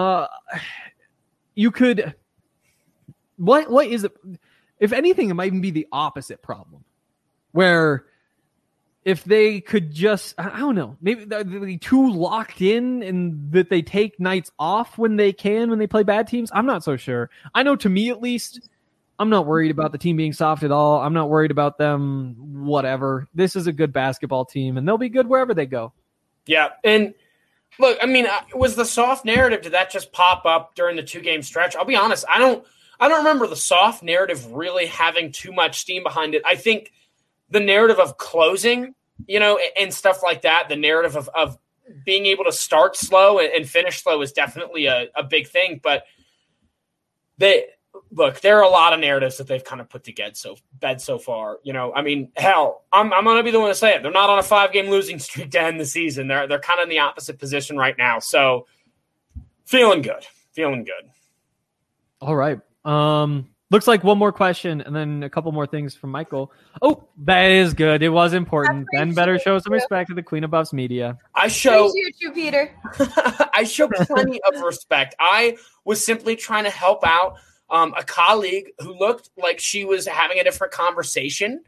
Speaker 2: You could. What is it? If anything, it might even be the opposite problem, where if they could just, I don't know, maybe they're too locked in and that they take nights off when they play bad teams. I'm not so sure. I know, to me at least, I'm not worried about the team being soft at all. I'm not worried about them, whatever. This is a good basketball team, and they'll be good wherever they go.
Speaker 4: Yeah, and look, I mean, was the soft narrative, did that just pop up during the 2-game stretch? I'll be honest, I don't remember the soft narrative really having too much steam behind it. I think the narrative of closing, and stuff like that, the narrative of being able to start slow and finish slow is definitely a big thing. But there are a lot of narratives that they've kind of put to bed so far. I mean, hell, I'm going to be the one to say it. They're not on a 5-game losing streak to end the season. They're kind of in the opposite position right now. So feeling good.
Speaker 2: All right. Looks like one more question and then a couple more things from Michael. Oh, that is good. It was important. Ben better show some respect to the Queen of Buffs media.
Speaker 4: I show
Speaker 5: you, Peter.
Speaker 4: I show plenty of respect. I was simply trying to help out a colleague who looked like she was having a different conversation.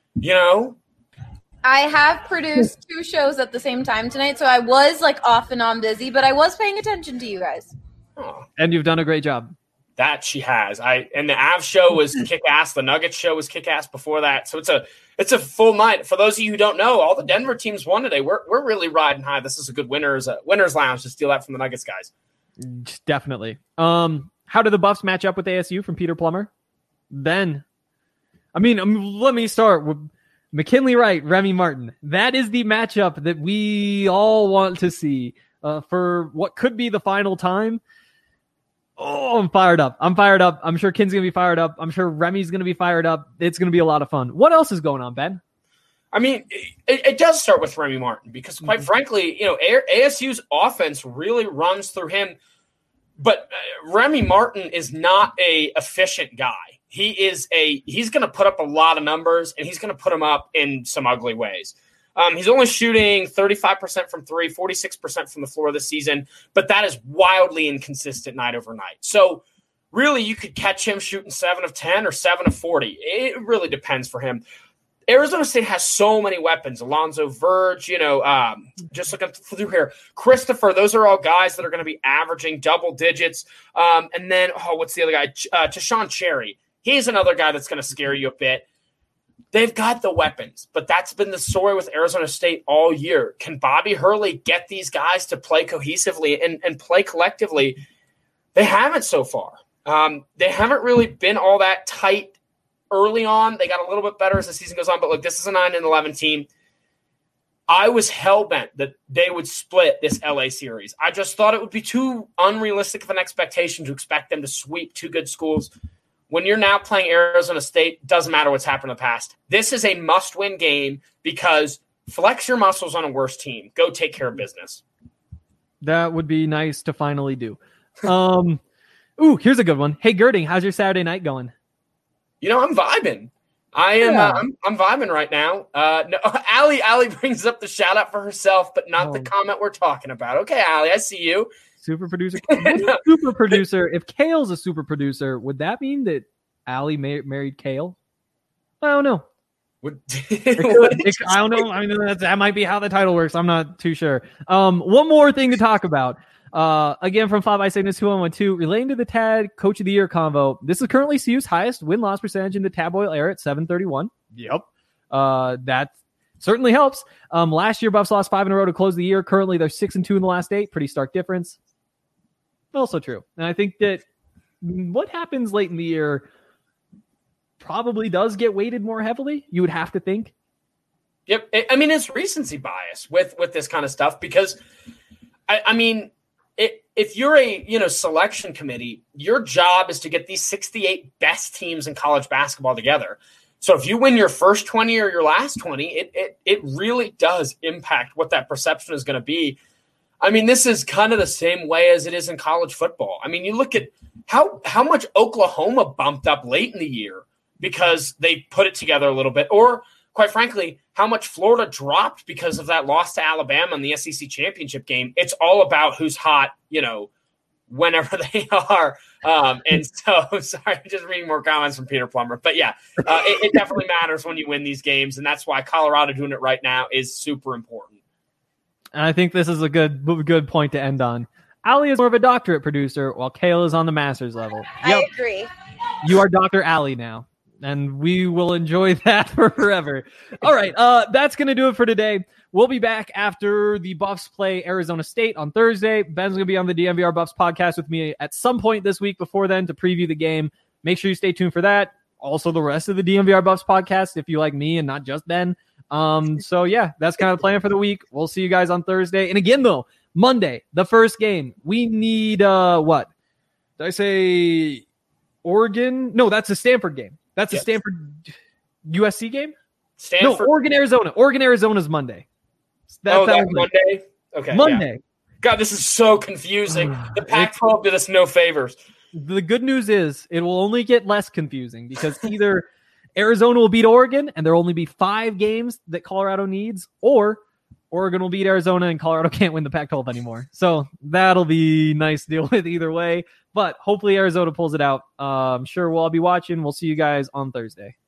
Speaker 5: I have produced 2 shows at the same time tonight, so I was off and on busy, but I was paying attention to you guys.
Speaker 4: Oh.
Speaker 2: And you've done a great job.
Speaker 4: That she has. And the Avs show was kick-ass. The Nuggets show was kick-ass before that. So it's a full night. For those of you who don't know, all the Denver teams won today. We're really riding high. This is a good winners lounge to steal that from the Nuggets guys.
Speaker 2: Definitely. How do the Buffs match up with ASU from Peter Plummer? Ben. I mean, let me start with McKinley Wright, Remy Martin. That is the matchup that we all want to see for what could be the final time. Oh, I'm fired up. I'm sure Kin's going to be fired up. I'm sure Remy's going to be fired up. It's going to be a lot of fun. What else is going on, Ben?
Speaker 4: I mean, it does start with Remy Martin because, quite frankly, ASU's offense really runs through him. But Remy Martin is not a efficient guy. He's going to put up a lot of numbers, and he's going to put them up in some ugly ways. He's only shooting 35% from 3, 46% from the floor this season, but that is wildly inconsistent night over night. So really you could catch him shooting 7 of 10 or 7 of 40. It really depends for him. Arizona State has so many weapons. Alonzo Verge, just looking through here. Christopher, those are all guys that are going to be averaging double digits. And then, what's the other guy? Tashawn Cherry. He's another guy that's going to scare you a bit. They've got the weapons, but that's been the story with Arizona State all year. Can Bobby Hurley get these guys to play cohesively and play collectively? They haven't so far. They haven't really been all that tight early on. They got a little bit better as the season goes on, but look, this is a 9-11 team. I was hell-bent that they would split this LA series. I just thought it would be too unrealistic of an expectation to expect them to sweep 2 good schools. When you're now playing Arizona State, doesn't matter what's happened in the past. This is a must-win game because flex your muscles on a worse team. Go take care of business.
Speaker 2: That would be nice to finally do. Here's a good one. Hey, Girding, how's your Saturday night going?
Speaker 4: I'm vibing. I am. I'm vibing right now. No, Allie brings up the shout out for herself, but not the comment we're talking about. Okay, Allie, I see you.
Speaker 2: Super producer. Super producer. If Kale's a super producer, would that mean that Allie married Kale? I don't know. I don't know. I mean, that might be how the title works. I'm not too sure. One more thing to talk about. Again, from Fly by Cygnus 2112, relating to the TAD Coach of the Year convo. This is currently CU's highest win-loss percentage in the Tab Oil era at 731. Yep. That certainly helps. Last year, Buffs lost 5 in a row to close the year. Currently, they're 6-2 in the last 8. Pretty stark difference. Also true. And I think that what happens late in the year probably does get weighted more heavily. You would have to think.
Speaker 4: Yep. I mean, it's recency bias with this kind of stuff because, I mean, if you're a selection committee, your job is to get these 68 best teams in college basketball together. So if you win your first 20 or your last 20, it really does impact what that perception is going to be. I mean, this is kind of the same way as it is in college football. I mean, you look at how much Oklahoma bumped up late in the year because they put it together a little bit, or quite frankly, how much Florida dropped because of that loss to Alabama in the SEC championship game. It's all about who's hot, whenever they are. And so, sorry, I'm just reading more comments from Peter Plummer. But yeah, it definitely matters when you win these games. And that's why Colorado doing it right now is super important.
Speaker 2: And I think this is a good point to end on. Allie is more of a doctorate producer, while Kale is on the master's level.
Speaker 5: I agree.
Speaker 2: You are Dr. Allie now, and we will enjoy that forever. All right, that's going to do it for today. We'll be back after the Buffs play Arizona State on Thursday. Ben's going to be on the DNVR Buffs podcast with me at some point this week before then to preview the game. Make sure you stay tuned for that. Also, the rest of the DNVR Buffs podcast if you like me and not just Ben. So, yeah, that's kind of the plan for the week. We'll see you guys on Thursday. And again, though, Monday, the first game, we need what? Did I say Oregon? No, that's a Stanford game. That's a Stanford USC game?
Speaker 4: Stanford?
Speaker 2: No, Oregon, Arizona. Oregon, Arizona's Monday.
Speaker 4: That's Monday? Okay.
Speaker 2: Monday.
Speaker 4: Yeah. God, this is so confusing. The Pac-12 did us no favors.
Speaker 2: The good news is it will only get less confusing because either Arizona will beat Oregon and there will only be 5 games that Colorado needs, or Oregon will beat Arizona and Colorado can't win the Pac-12 anymore. So that'll be nice to deal with either way. But hopefully Arizona pulls it out. I'm sure we'll all be watching. We'll see you guys on Thursday.